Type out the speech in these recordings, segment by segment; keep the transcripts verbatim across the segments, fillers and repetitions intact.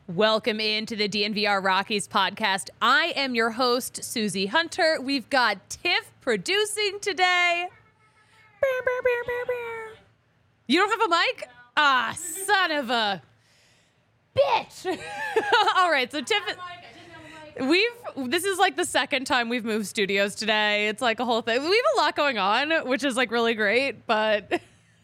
Welcome into the D N V R Rockies podcast. I am your host, Susie Hunter. We've got Tiff producing today. You don't have a mic? Ah, son of a bitch. All right, so Tiff, we've, this is like the second time we've moved studios today. It's like a whole thing. We have a lot going on, which is like really great, but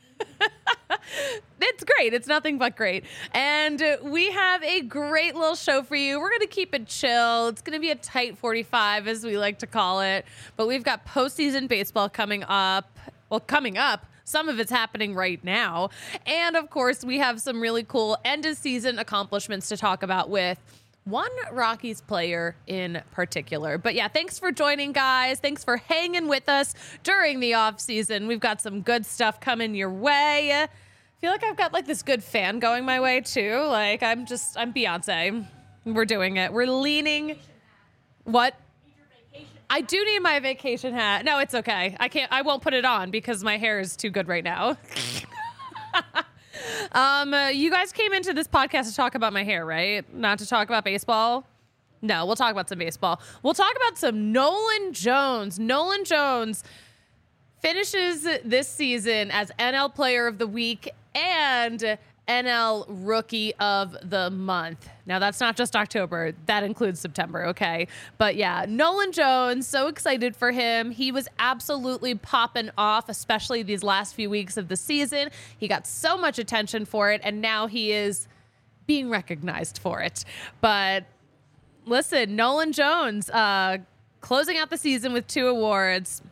it's great. It's nothing but great. And we have a great little show for you. We're going to keep it chill. It's going to be a tight forty-five, as we like to call it. But we've got postseason baseball coming up. Well, coming up. Some of it's happening right now. And, of course, we have some really cool end-of-season accomplishments to talk about with one Rockies player in particular. But yeah, thanks for joining, guys. Thanks for hanging with us during the off season. We've got some good stuff coming your way. I feel like I've got like this good fan going my way too. Like I'm just, I'm Beyonce. We're doing it. We're leaning. What? I do need my vacation hat. No, it's okay. I can't, I won't put it on because my hair is too good right now. Um, uh, you guys came into this podcast to talk about my hair, right? Not to talk about baseball? No, we'll talk about some baseball. We'll talk about some Nolan Jones. Nolan Jones finishes this season as N L Player of the Week and N L Rookie of the Month. Now, that's not just October. That includes September, okay? But yeah, Nolan Jones, so excited for him. He was absolutely popping off, especially these last few weeks of the season. He got so much attention for it, and now he is being recognized for it. But listen, Nolan Jones, uh, closing out the season with two awards.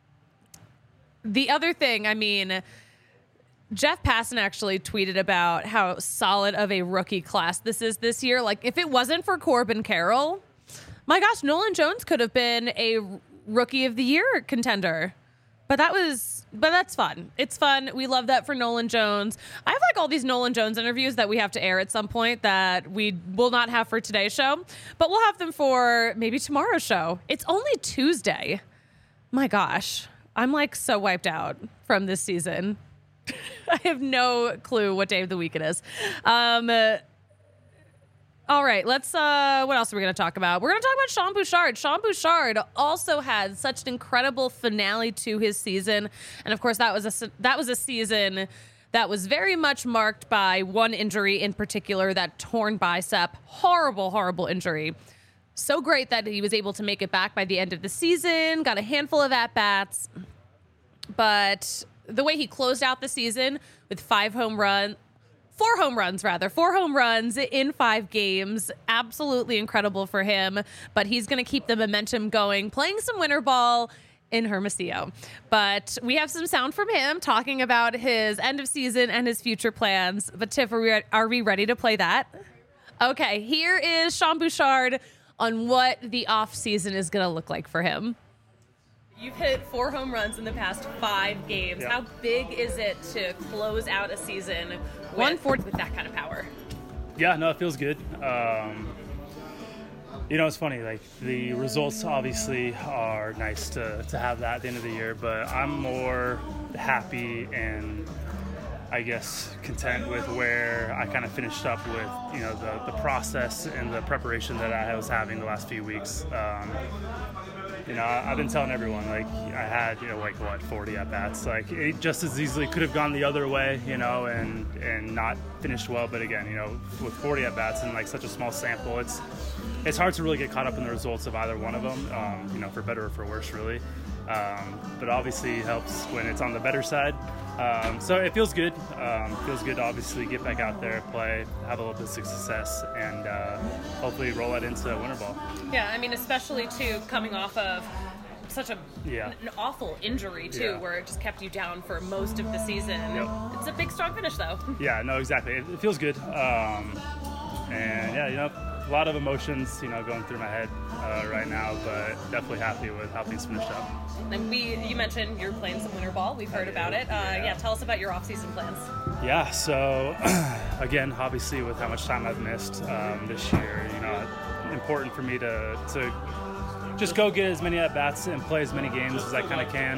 The other thing, I mean, Jeff Passan actually tweeted about how solid of a rookie class this is this year. Like, if it wasn't for Corbin Carroll, my gosh, Nolan Jones could have been a Rookie of the Year contender. But that was, but that's fun. It's fun. We love that for Nolan Jones. I have like all these Nolan Jones interviews that we have to air at some point that we will not have for today's show, but we'll have them for maybe tomorrow's show. It's only Tuesday. My gosh, I'm like so wiped out from this season. I have no clue what day of the week it is. Um, uh, all right, let's, uh, what else are we going to talk about? We're going to talk about Sean Bouchard. Sean Bouchard also had such an incredible finale to his season. And of course, that was a, that was a season that was very much marked by one injury in particular, that torn bicep. Horrible, horrible injury. So great that he was able to make it back by the end of the season, got a handful of at-bats. But the way he closed out the season with five home runs, four home runs rather, four home runs in five games, absolutely incredible for him. But he's going to keep the momentum going, playing some winter ball in Hermosillo. But we have some sound from him talking about his end of season and his future plans. But Tiff, are we, are we ready to play that? Okay, here is Sean Bouchard on what the off season is going to look like for him. You've hit four home runs in the past five games. Yeah. How big is it to close out a season with, One fourth with that kind of power? Yeah, no, it feels good. Um, you know, it's funny, like the results obviously are nice to, to have that at the end of the year, but I'm more happy and I guess content with where I kind of finished up with, you know, the, the process and the preparation that I was having the last few weeks. Um, You know, I've been telling everyone, like, I had, you know, like, what, forty at-bats. Like, it just as easily could have gone the other way, you know, and, and not finished well. But again, you know, with forty at-bats and, like, such a small sample, it's it's hard to really get caught up in the results of either one of them, um, you know, for better or for worse, really. Um, but obviously it helps when it's on the better side. Um, so it feels good. Um, feels good to obviously get back out there, play, have a little bit of success, and uh, hopefully roll it into winter ball. Yeah, I mean, especially, too, coming off of such a yeah. an awful injury, too, Yeah. where it just kept you down for most of the season. Yep. It's a big, strong finish, though. Yeah, no, exactly. It, it feels good. Um, and, yeah, you know, a lot of emotions, you know, going through my head uh, right now, but definitely happy with how things finished up. And we, you mentioned you're playing some winter ball. We've heard about it. Uh, yeah. yeah, tell us about your off-season plans. Yeah, so again, obviously with how much time I've missed um, this year, you know, important for me to to just go get as many at-bats and play as many games as I kind of can.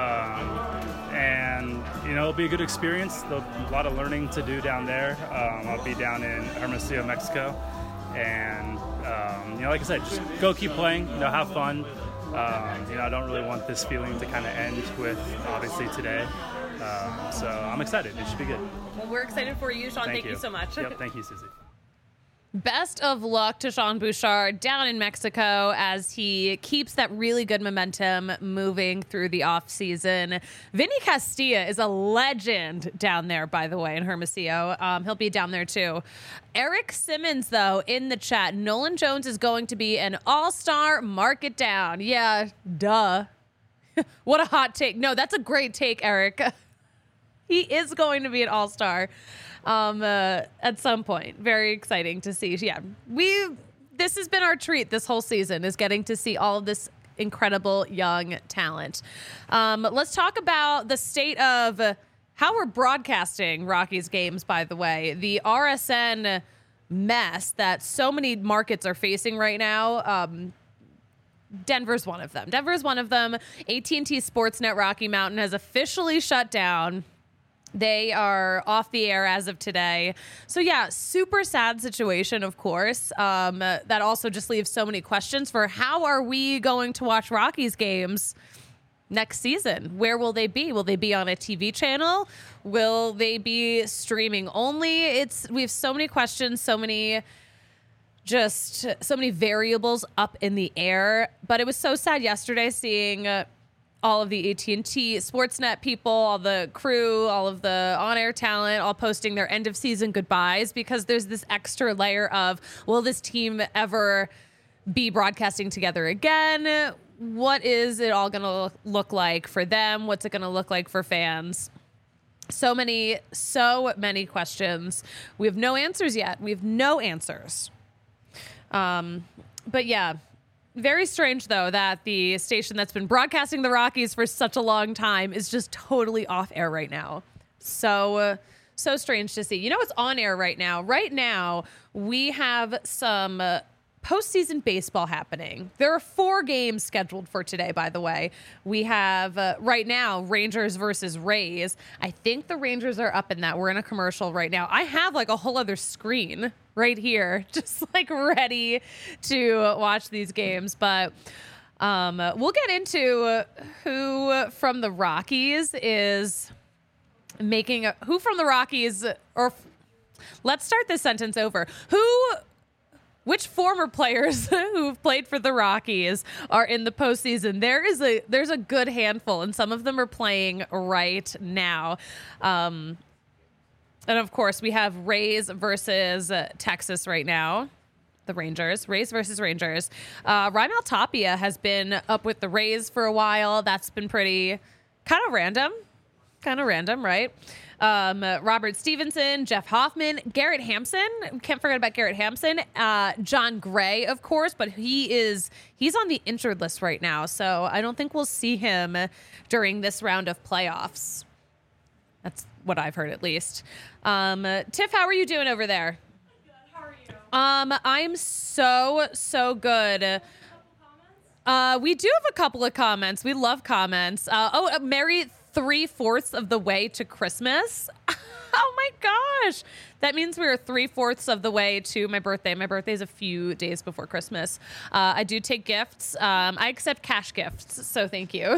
Um, and, you know, it'll be a good experience. There'll be a lot of learning to do down there. Um, I'll be down in Hermosillo, Mexico. And, um, you know, like I said, just go keep playing, you know, have fun. Um, you know, I don't really want this feeling to kind of end with, obviously, today. Um, so I'm excited. It should be good. Well, we're excited for you, Sean. Thank, Thank you. you so much. Yep, thank you, Susie. Best of luck to Sean Bouchard down in Mexico as he keeps that really good momentum moving through the offseason. Vinny Castilla is a legend down there, by the way, in Hermosillo. Um, he'll be down there, too. Eric Simmons, though, in the chat. Nolan Jones is going to be an all-star. Mark it down. Yeah, duh. What a hot take. No, that's a great take, Eric. He is going to be an all-star. Um, uh, at some point. Very exciting to see. Yeah, we this has been our treat this whole season, is getting to see all of this incredible young talent. Um, let's talk about the state of uh, how we're broadcasting Rockies games, by the way. The R S N mess that so many markets are facing right now. Um, Denver's one of them. Denver's one of them. A T and T Sportsnet Rocky Mountain has officially shut down. They are off the air as of today. So, yeah, super sad situation, of course. Um, uh, that also just leaves so many questions for how are we going to watch Rockies games next season? Where will they be? Will they be on a T V channel? Will they be streaming only? It's we have so many questions, so many just so many variables up in the air. But it was so sad yesterday seeing uh, all of the A T and T Sportsnet people, all the crew, all of the on-air talent, all posting their end-of-season goodbyes, because there's this extra layer of, will this team ever be broadcasting together again? What is it all going to look like for them? What's it going to look like for fans? So many, so many questions. We have no answers yet. We have no answers. Um, but yeah. Very strange, though, that the station that's been broadcasting the Rockies for such a long time is just totally off air right now. So, uh, so strange to see. You know what's on air right now? Right now, we have some uh, postseason baseball happening. There are four games scheduled for today, by the way. We have, uh, right now, Rangers versus Rays. I think the Rangers are up in that. We're in a commercial right now. I have, like, a whole other screen right here, just like ready to watch these games. But um, we'll get into who from the Rockies is making a, who from the Rockies, or let's start this sentence over. Who, which former players who've played for the Rockies are in the postseason? There is a, there's a good handful, and some of them are playing right now. Um, And, of course, we have Rays versus uh, Texas right now. The Rangers. Rays versus Rangers. Uh, Raimel Tapia has been up with the Rays for a while. That's been pretty kind of random. Kind of random, right? Um, uh, Robert Stevenson, Jeff Hoffman, Garrett Hampson. Can't forget about Garrett Hampson. Uh, John Gray, of course, but he is he's on the injured list right now. So I don't think we'll see him during this round of playoffs. That's what I've heard, at least. Um, uh, Tiff, how are you doing over there? Good. How are you? Um, I'm so, so good. Uh, we do have a couple of comments. We love comments. Uh, oh, uh, Merry three-fourths of the way to Christmas. Oh, my gosh. That means we are three-fourths of the way to my birthday. My birthday is a few days before Christmas. Uh, I do take gifts. Um, I accept cash gifts, so thank you.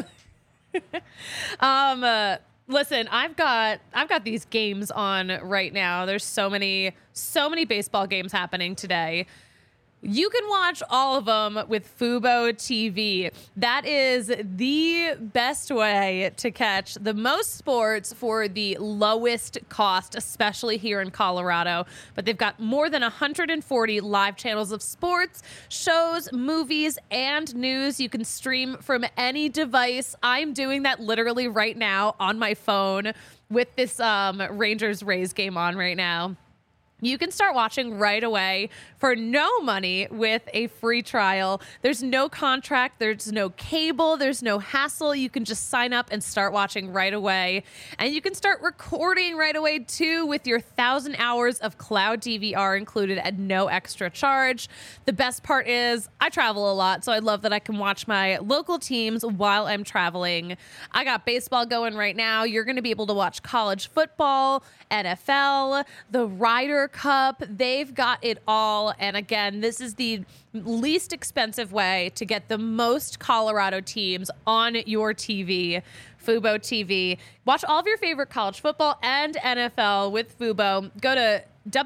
um, uh, Listen, I've got I've got these games on right now. There's so many so many baseball games happening today. You can watch all of them with Fubo T V. That is the best way to catch the most sports for the lowest cost, especially here in Colorado. But they've got more than one hundred forty live channels of sports, shows, movies, and news. You can stream from any device. I'm doing that literally right now on my phone with this um, Rangers-Rays game on right now. You can start watching right away for no money with a free trial. There's no contract. There's no cable. There's no hassle. You can just sign up and start watching right away. And you can start recording right away, too, with your one thousand hours of cloud D V R included at no extra charge. The best part is I travel a lot, so I love that I can watch my local teams while I'm traveling. I got baseball going right now. You're going to be able to watch college football, N F L, the Riders Ryder Cup. They've got it all. And again, this is the least expensive way to get the most Colorado teams on your T V. Fubo T V. Watch all of your favorite college football and N F L with Fubo. Go to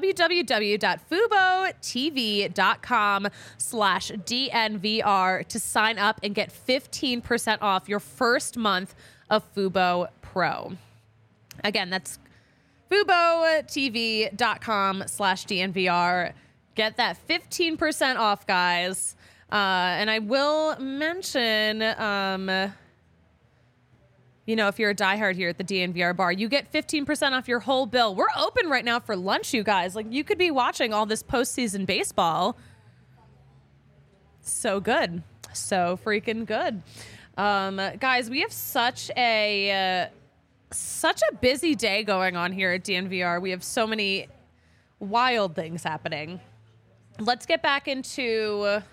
www.fubotv.com slash DNVR to sign up and get fifteen percent off your first month of Fubo Pro. Again, that's FuboTV.com slash DNVR. Get that fifteen percent off, guys. Uh, and I will mention, um, you know, if you're a diehard here at the D N V R bar, you get fifteen percent off your whole bill. We're open right now for lunch, you guys. Like, you could be watching all this postseason baseball. So good. So freaking good. Um, guys, we have such a... Uh, Such a busy day going on here at D N V R. We have so many wild things happening. Let's get back into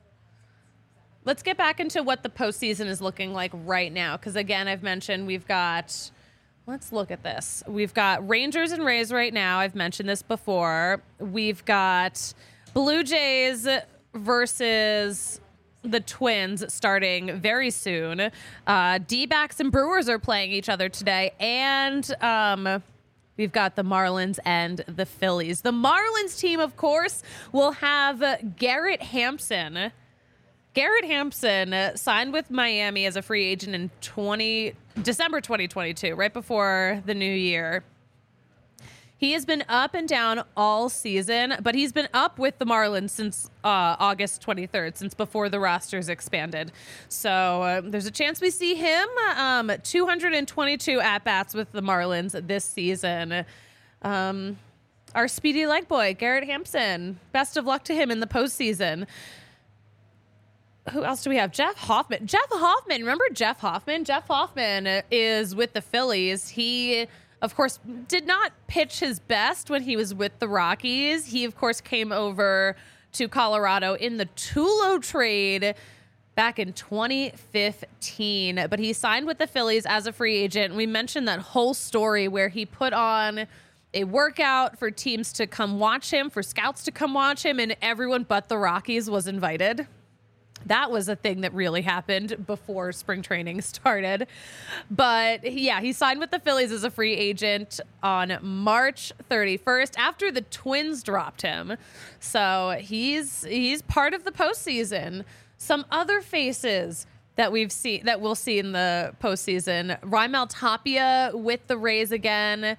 let's get back into what the postseason is looking like right now. Because again, I've mentioned we've got. Let's look at this. We've got Rangers and Rays right now. I've mentioned this before. We've got Blue Jays versus the Twins starting very soon. Uh, D-backs and Brewers are playing each other today. And um, we've got the Marlins and the Phillies. The Marlins team, of course, will have Garrett Hampson. Garrett Hampson uh, signed with Miami as a free agent in twenty December twenty twenty-two, right before the new year. He has been up and down all season, but he's been up with the Marlins since uh, August twenty-third, since before the rosters expanded. So uh, there's a chance we see him. Um, two hundred twenty-two at-bats with the Marlins this season. Um, our speedy leg boy, Garrett Hampson. Best of luck to him in the postseason. Who else do we have? Jeff Hoffman. Jeff Hoffman. Remember Jeff Hoffman? Jeff Hoffman is with the Phillies. He... Of course, did not pitch his best when he was with the Rockies. He, of course, came over to Colorado in the Tulo trade back in twenty fifteen. But he signed with the Phillies as a free agent. We mentioned that whole story where he put on a workout for teams to come watch him, for scouts to come watch him, and everyone but the Rockies was invited. That was a thing that really happened before spring training started. But yeah, he signed with the Phillies as a free agent on March thirty-first after the Twins dropped him. So he's he's part of the postseason. Some other faces that we've seen that we'll see in the postseason. Raimel Tapia with the Rays again.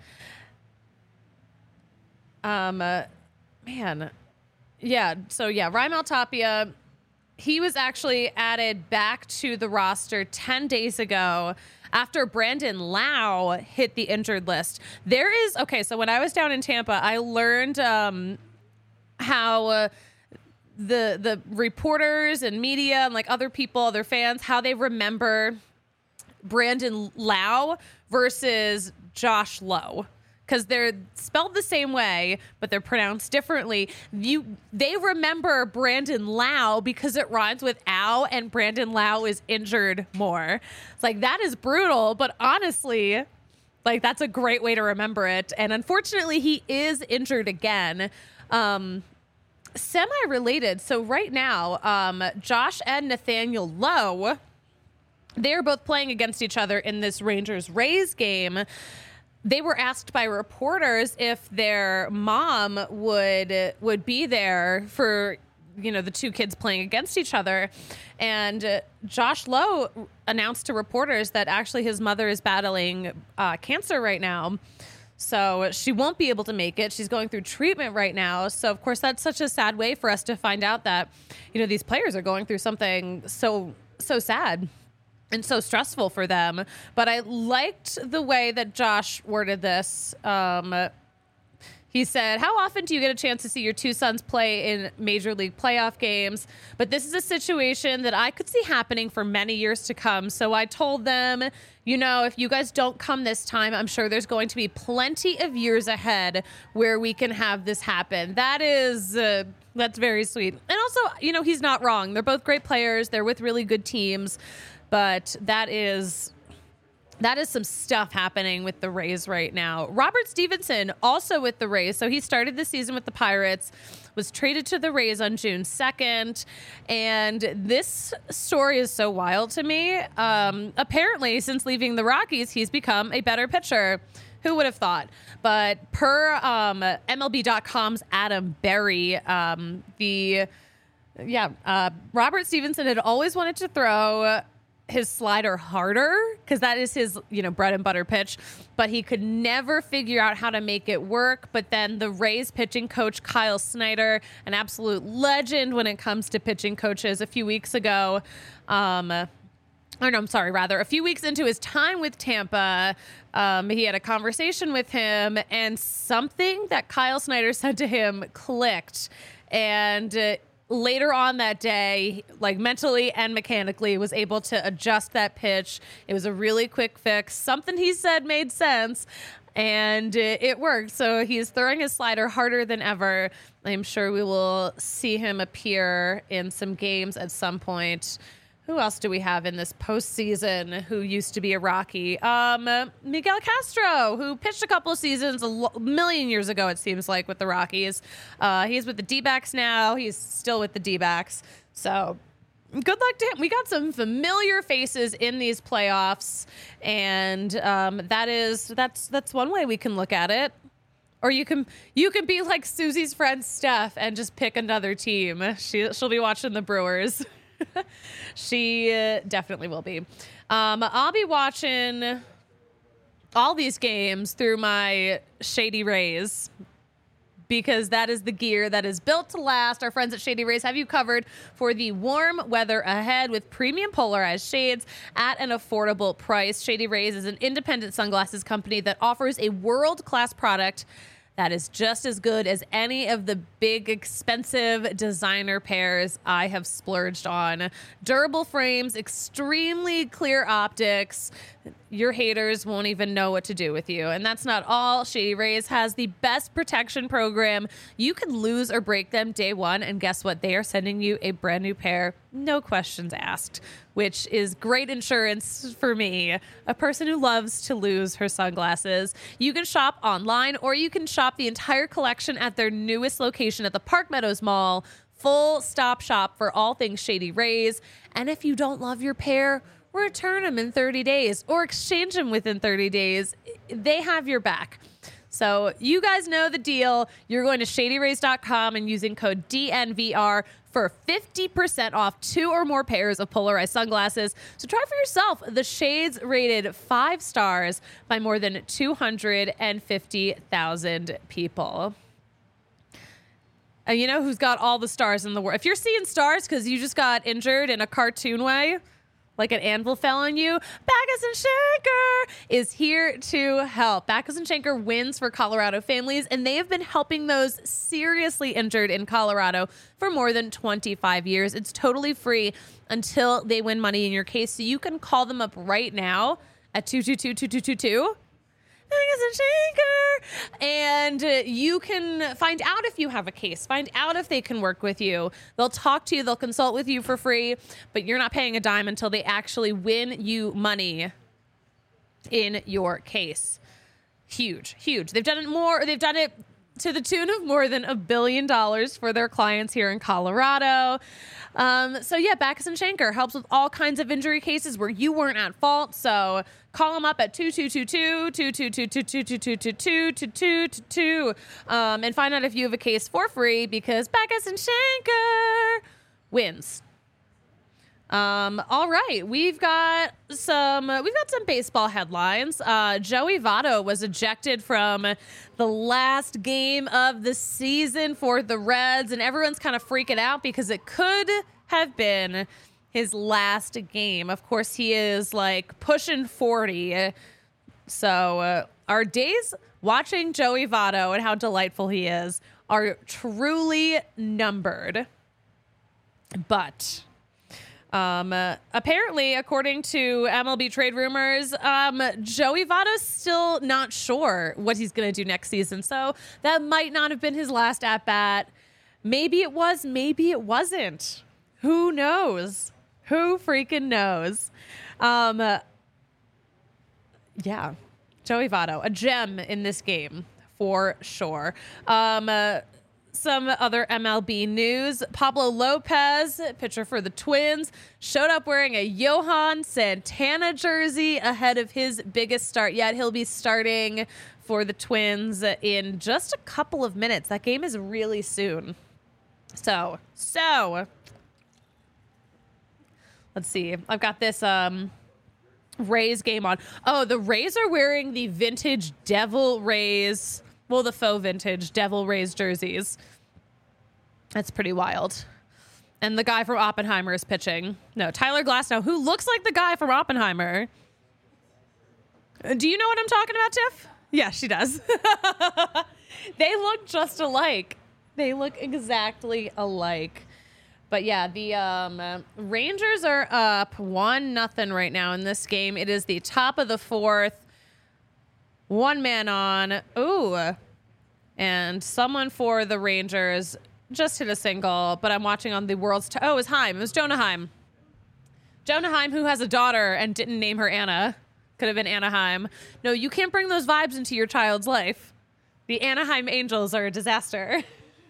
Um, uh, man, yeah. So yeah, Raimel Tapia. He was actually added back to the roster ten days ago after Brandon Lau hit the injured list. There is, okay, so when I was down in Tampa, I learned um, how uh, the the reporters and media and like other people, other fans, how they remember Brandon Lau versus Josh Lowe. Because they're spelled the same way, but they're pronounced differently. You, they remember Brandon Lau because it rhymes with ow, and Brandon Lau is injured more. It's like, that is brutal, but honestly, like, that's a great way to remember it. And unfortunately, he is injured again. Um, semi-related. So right now, um, Josh and Nathaniel Lowe, they're both playing against each other in this Rangers-Rays game. They were asked by reporters if their mom would would be there for, you know, the two kids playing against each other. And uh, Josh Lowe announced to reporters that actually his mother is battling uh, cancer right now. So she won't be able to make it. She's going through treatment right now. So, of course, that's such a sad way for us to find out that, you know, these players are going through something so, so sad and so stressful for them. But I liked the way that Josh worded this. Um, he said, how often do you get a chance to see your two sons play in major league playoff games? But this is a situation that I could see happening for many years to come. So I told them, you know, if you guys don't come this time, I'm sure there's going to be plenty of years ahead where we can have this happen. That is, uh, that's very sweet. And also, you know, he's not wrong. They're both great players. They're with really good teams. But that is that is some stuff happening with the Rays right now. Robert Stevenson, also with the Rays. So he started the season with the Pirates, was traded to the Rays on June second. And this story is so wild to me. Um, apparently, since leaving the Rockies, he's become a better pitcher. Who would have thought? But per um, M L B dot com's Adam Berry, um, the yeah, uh, Robert Stevenson had always wanted to throw his slider harder because that is his, you know, bread and butter pitch, but he could never figure out how to make it work. But then the Rays pitching coach Kyle Snyder, an absolute legend when it comes to pitching coaches, a few weeks ago, um, or no, I'm sorry, rather a few weeks into his time with Tampa, um, he had a conversation with him, and something that Kyle Snyder said to him clicked, and uh, later on that day, like mentally and mechanically, was able to adjust that pitch. It was a really quick fix. Something he said made sense, and it, it worked. So he's throwing his slider harder than ever. I'm sure we will see him appear in some games at some point. Who else do we have in this postseason who used to be a Rocky? Um, Miguel Castro, who pitched a couple of seasons a lo- million years ago, it seems like, with the Rockies. Uh, he's with the D-backs now. He's still with the D-backs. So good luck to him. We got some familiar faces in these playoffs, and um, that is that's that's one way we can look at it. Or you can you can be like Susie's friend Steph and just pick another team. She she'll be watching the Brewers. She uh, definitely will be. Um, I'll be watching all these games through my Shady Rays because that is the gear that is built to last. Our friends at Shady Rays have you covered for the warm weather ahead with premium polarized shades at an affordable price. Shady Rays is an independent sunglasses company that offers a world-class product that is just as good as any of the big, expensive designer pairs I have splurged on. Durable frames, extremely clear optics. Your haters won't even know what to do with you. And that's not all. Shady Rays has the best protection program. You can lose or break them day one, and guess what? They are sending you a brand new pair, no questions asked, which is great insurance for me, a person who loves to lose her sunglasses. You can shop online, or you can shop the entire collection at their newest location at the Park Meadows Mall. Full stop shop for all things Shady Rays. And if you don't love your pair, return them in thirty days or exchange them within thirty days. They have your back. So you guys know the deal. You're going to shady rays dot com and using code D N V R for fifty percent off two or more pairs of polarized sunglasses. So try for yourself the shades rated five stars by more than two hundred fifty thousand people. And you know who's got all the stars in the world? If you're seeing stars because you just got injured in a cartoon way, like an anvil fell on you, Backus and Schenker is here to help. Backus and Schenker wins for Colorado families, and they have been helping those seriously injured in Colorado for more than twenty-five years. It's totally free until they win money in your case, so you can call them up right now at two two two, two two two two. Backus and Schenker. And uh, you can find out if you have a case, find out if they can work with you. They'll talk to you, they'll consult with you for free, but you're not paying a dime until they actually win you money in your case. Huge, huge. They've done it more, they've done it to the tune of more than a billion dollars for their clients here in Colorado. Um, so yeah, Backus and Schenker helps with all kinds of injury cases where you weren't at fault. So call them up at two two two two, two two two two, two two two two, two two two two two um, and find out if you have a case for free because Backus and Schenker wins. Um, all right, we've got some uh, we've got some baseball headlines. Uh, Joey Votto was ejected from the last game of the season for the Reds, and everyone's kind of freaking out because it could have been his last game. Of course, he is like pushing forty, so uh, our days watching Joey Votto and how delightful he is are truly numbered. But Um, uh, apparently, according to M L B Trade Rumors, um, Joey Votto's still not sure what he's going to do next season. So that might not have been his last at bat. Maybe it was, maybe it wasn't. Who knows? Who freaking knows? Um, uh, Yeah, Joey Votto, a gem in this game for sure. Um, uh, some other M L B news. Pablo Lopez, pitcher for the Twins, showed up wearing a Johan Santana jersey ahead of his biggest start yet. He'll be starting for the Twins in just a couple of minutes. That game is really soon. So, so let's see. I've got this um, Rays game on. Oh, the Rays are wearing the vintage Devil Rays. Well, the faux vintage Devil Rays jerseys. That's pretty wild. And the guy from Oppenheimer is pitching. No, Tyler Glasnow, who looks like the guy from Oppenheimer. Do you know what I'm talking about, Tiff? Yeah, she does. They look just alike. They look exactly alike. But yeah, the um, Rangers are up one nothing right now in this game. It is the top of the fourth. One man on. Ooh. And someone for the Rangers just hit a single, but I'm watching on the world's... T- oh, it was Heim. It was Jonah Heim. Jonah Heim, who has a daughter and didn't name her Anna. Could have been Anaheim. No, you can't bring those vibes into your child's life. The Anaheim Angels are a disaster.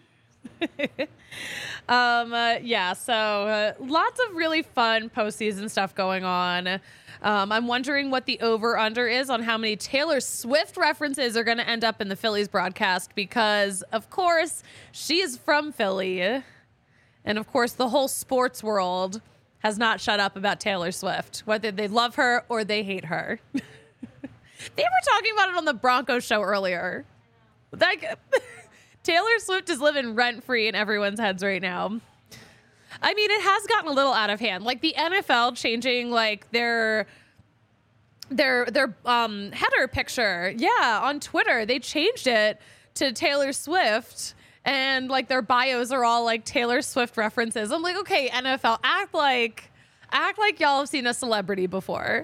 um, uh, yeah, so uh, lots of really fun postseason stuff going on. Um, I'm wondering what the over-under is on how many Taylor Swift references are going to end up in the Phillies broadcast because, of course, she is from Philly. And, of course, the whole sports world has not shut up about Taylor Swift, whether they love her or they hate her. They were talking about it on the Broncos show earlier. Like, Taylor Swift is living rent-free in everyone's heads right now. I mean, it has gotten a little out of hand. Like the N F L changing like their their their um, header picture. Yeah, on Twitter, they changed it to Taylor Swift, and like their bios are all like Taylor Swift references. I'm like, okay, N F L, act like act like y'all have seen a celebrity before.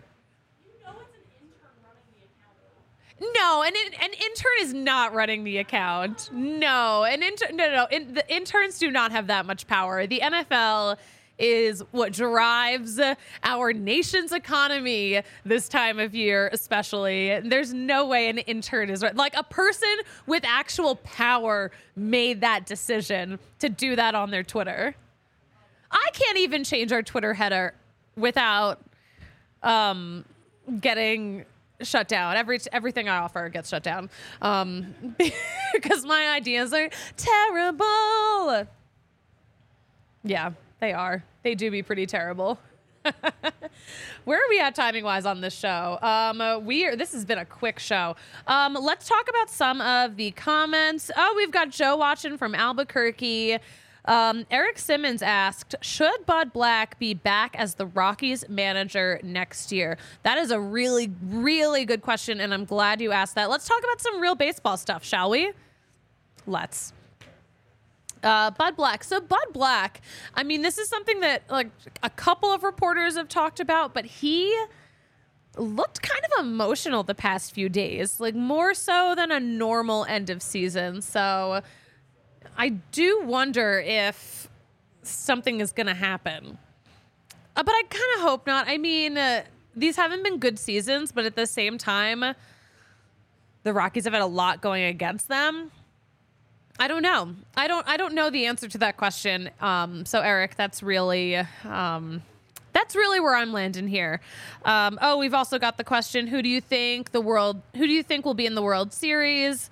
No, an, an intern is not running the account. No, an intern. No, no, no. In, the interns do not have that much power. The N F L is what drives our nation's economy this time of year, especially. There's no way an intern is right. Like a person with actual power made that decision to do that on their Twitter. I can't even change our Twitter header without um, getting shut down. Every everything I offer gets shut down um, because my ideas are terrible. Yeah, they are. They do be pretty terrible. Where are we at timing wise on this show? Um, uh, we are, this has been a quick show. Um, let's talk about some of the comments. Oh, we've got Joe watching from Albuquerque. Um, Eric Simmons asked, should Bud Black be back as the Rockies manager next year? That is a really, really good question, and I'm glad you asked that. Let's talk about some real baseball stuff, shall we? Let's. Uh, Bud Black. So Bud Black, I mean, this is something that like a couple of reporters have talked about, but he looked kind of emotional the past few days, like more so than a normal end of season. So I do wonder if something is going to happen. Uh, but I kind of hope not. I mean, uh, these haven't been good seasons, but at the same time, the Rockies have had a lot going against them. I don't know. I don't I don't know the answer to that question. Um, so, Eric, that's really... Um, That's really where I'm landing here. Um, oh, we've also got the question, who do you think the world, who do you think will be in the World Series?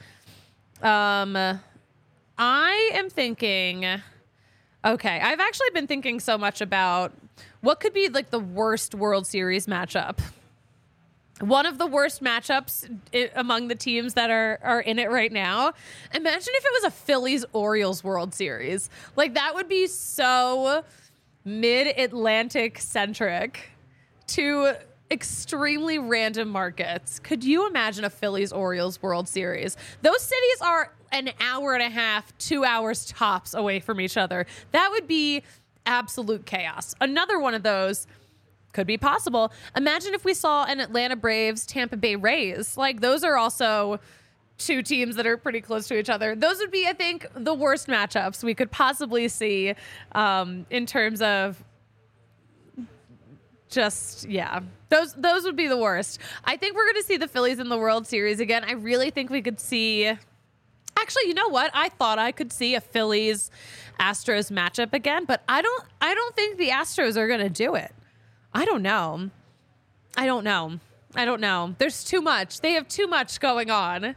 Um, I am thinking, okay, I've actually been thinking so much about what could be like the worst World Series matchup. One of the worst matchups I- among the teams that are, are in it right now. Imagine if it was a Phillies-Orioles World Series. Like, that would be so mid-Atlantic centric to extremely random markets. Could you imagine a Phillies-Orioles World Series? Those cities are an hour and a half, two hours tops away from each other. That would be absolute chaos. Another one of those could be possible. Imagine if we saw an Atlanta Braves, Tampa Bay Rays. Like, those are also two teams that are pretty close to each other. Those would be, I think, the worst matchups we could possibly see um, in terms of just, yeah, those those would be the worst. I think we're going to see the Phillies in the World Series again. I really think we could see. Actually, you know what? I thought I could see a Phillies Astros matchup again, but I don't. I don't think the Astros are going to do it. I don't know. I don't know. I don't know. There's too much. They have too much going on.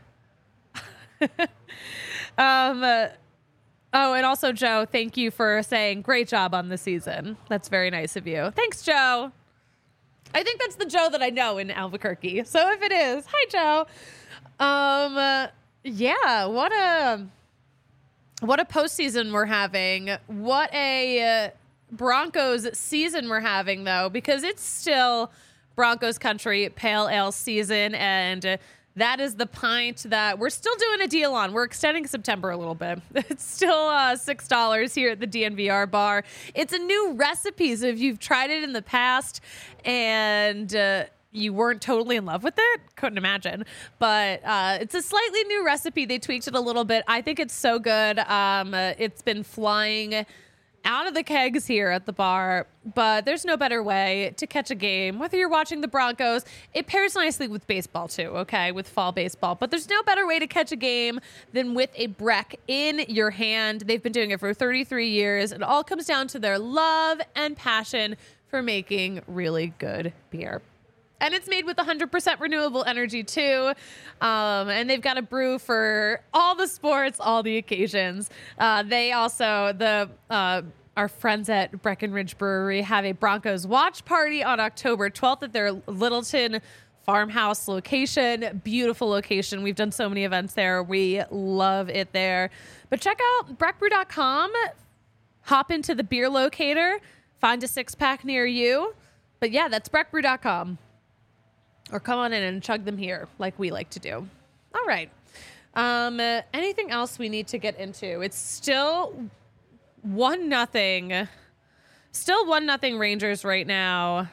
um. Uh, oh, and also, Joe, thank you for saying great job on the season. That's very nice of you. Thanks, Joe. I think that's the Joe that I know in Albuquerque. So if it is, hi, Joe. Um. Uh, yeah. What a what a postseason we're having. What a uh, Broncos season we're having, though, because it's still Broncos country pale ale season, and uh, that is the pint that we're still doing a deal on. We're extending September a little bit. It's still uh, six dollars here at the D N V R bar. It's a new recipe, so if you've tried it in the past and uh, you weren't totally in love with it, couldn't imagine. But uh, it's a slightly new recipe. They tweaked it a little bit. I think it's so good. Um, uh, it's been flying out of the kegs here at the bar, but there's no better way to catch a game. Whether you're watching the Broncos, it pairs nicely with baseball too, okay, with fall baseball. But there's no better way to catch a game than with a Breck in your hand. They've been doing it for thirty-three years. It all comes down to their love and passion for making really good beer. And it's made with one hundred percent renewable energy, too. Um, and they've got a brew for all the sports, all the occasions. Uh, they also, the uh, our friends at Breckenridge Brewery, have a Broncos watch party on October twelfth at their Littleton farmhouse location. Beautiful location. We've done so many events there. We love it there. But check out breck brew dot com. Hop into the beer locator. Find a six-pack near you. But, yeah, that's breck brew dot com. Or come on in and chug them here like we like to do. All right. Um, uh, anything else we need to get into? It's still one nothing. Still one nothing Rangers right now.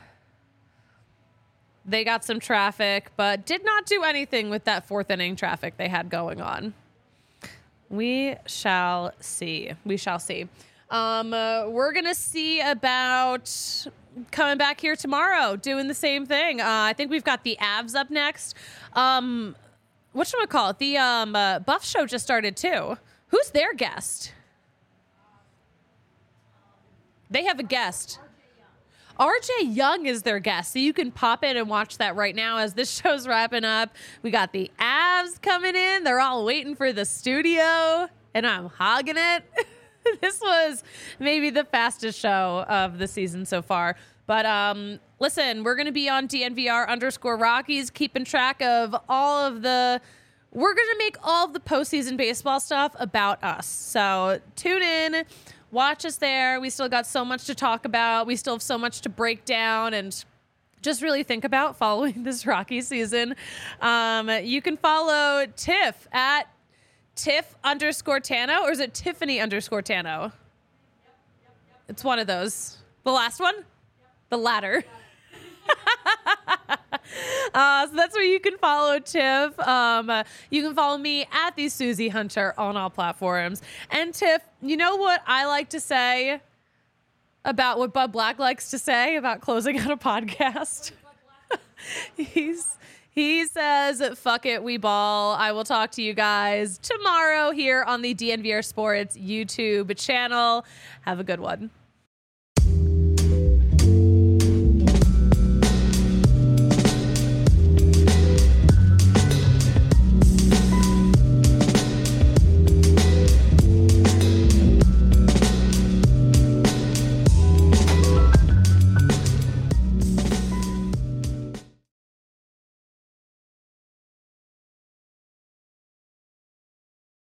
They got some traffic, but did not do anything with that fourth inning traffic they had going on. We shall see. We shall see. Um, uh, we're going to see about coming back here tomorrow, doing the same thing. Uh, I think we've got the Avs up next. Um, what should we call it? The um, uh, Buff Show just started too. Who's their guest? They have a guest. R J Young is their guest, so you can pop in and watch that right now as this show's wrapping up. We got the Avs coming in. They're all waiting for the studio, and I'm hogging it. This was maybe the fastest show of the season so far. But um, listen, we're going to be on D N V R underscore Rockies, keeping track of all of the... We're going to make all of the postseason baseball stuff about us. So tune in, watch us there. We still got so much to talk about. We still have so much to break down and just really think about following this Rocky season. Um, you can follow Tiff at Tiff underscore Tano, or is it Tiffany underscore Tano? Yep, yep, yep. It's one of those. The last one? Yep. The latter. uh, so that's where you can follow Tiff. Um, uh, you can follow me at the Susie Hunter on all platforms. And Tiff, you know what I like to say about what Bud Black likes to say about closing out a podcast? He's... He says, fuck it, we ball. I will talk to you guys tomorrow here on the D N V R Sports YouTube channel. Have a good one.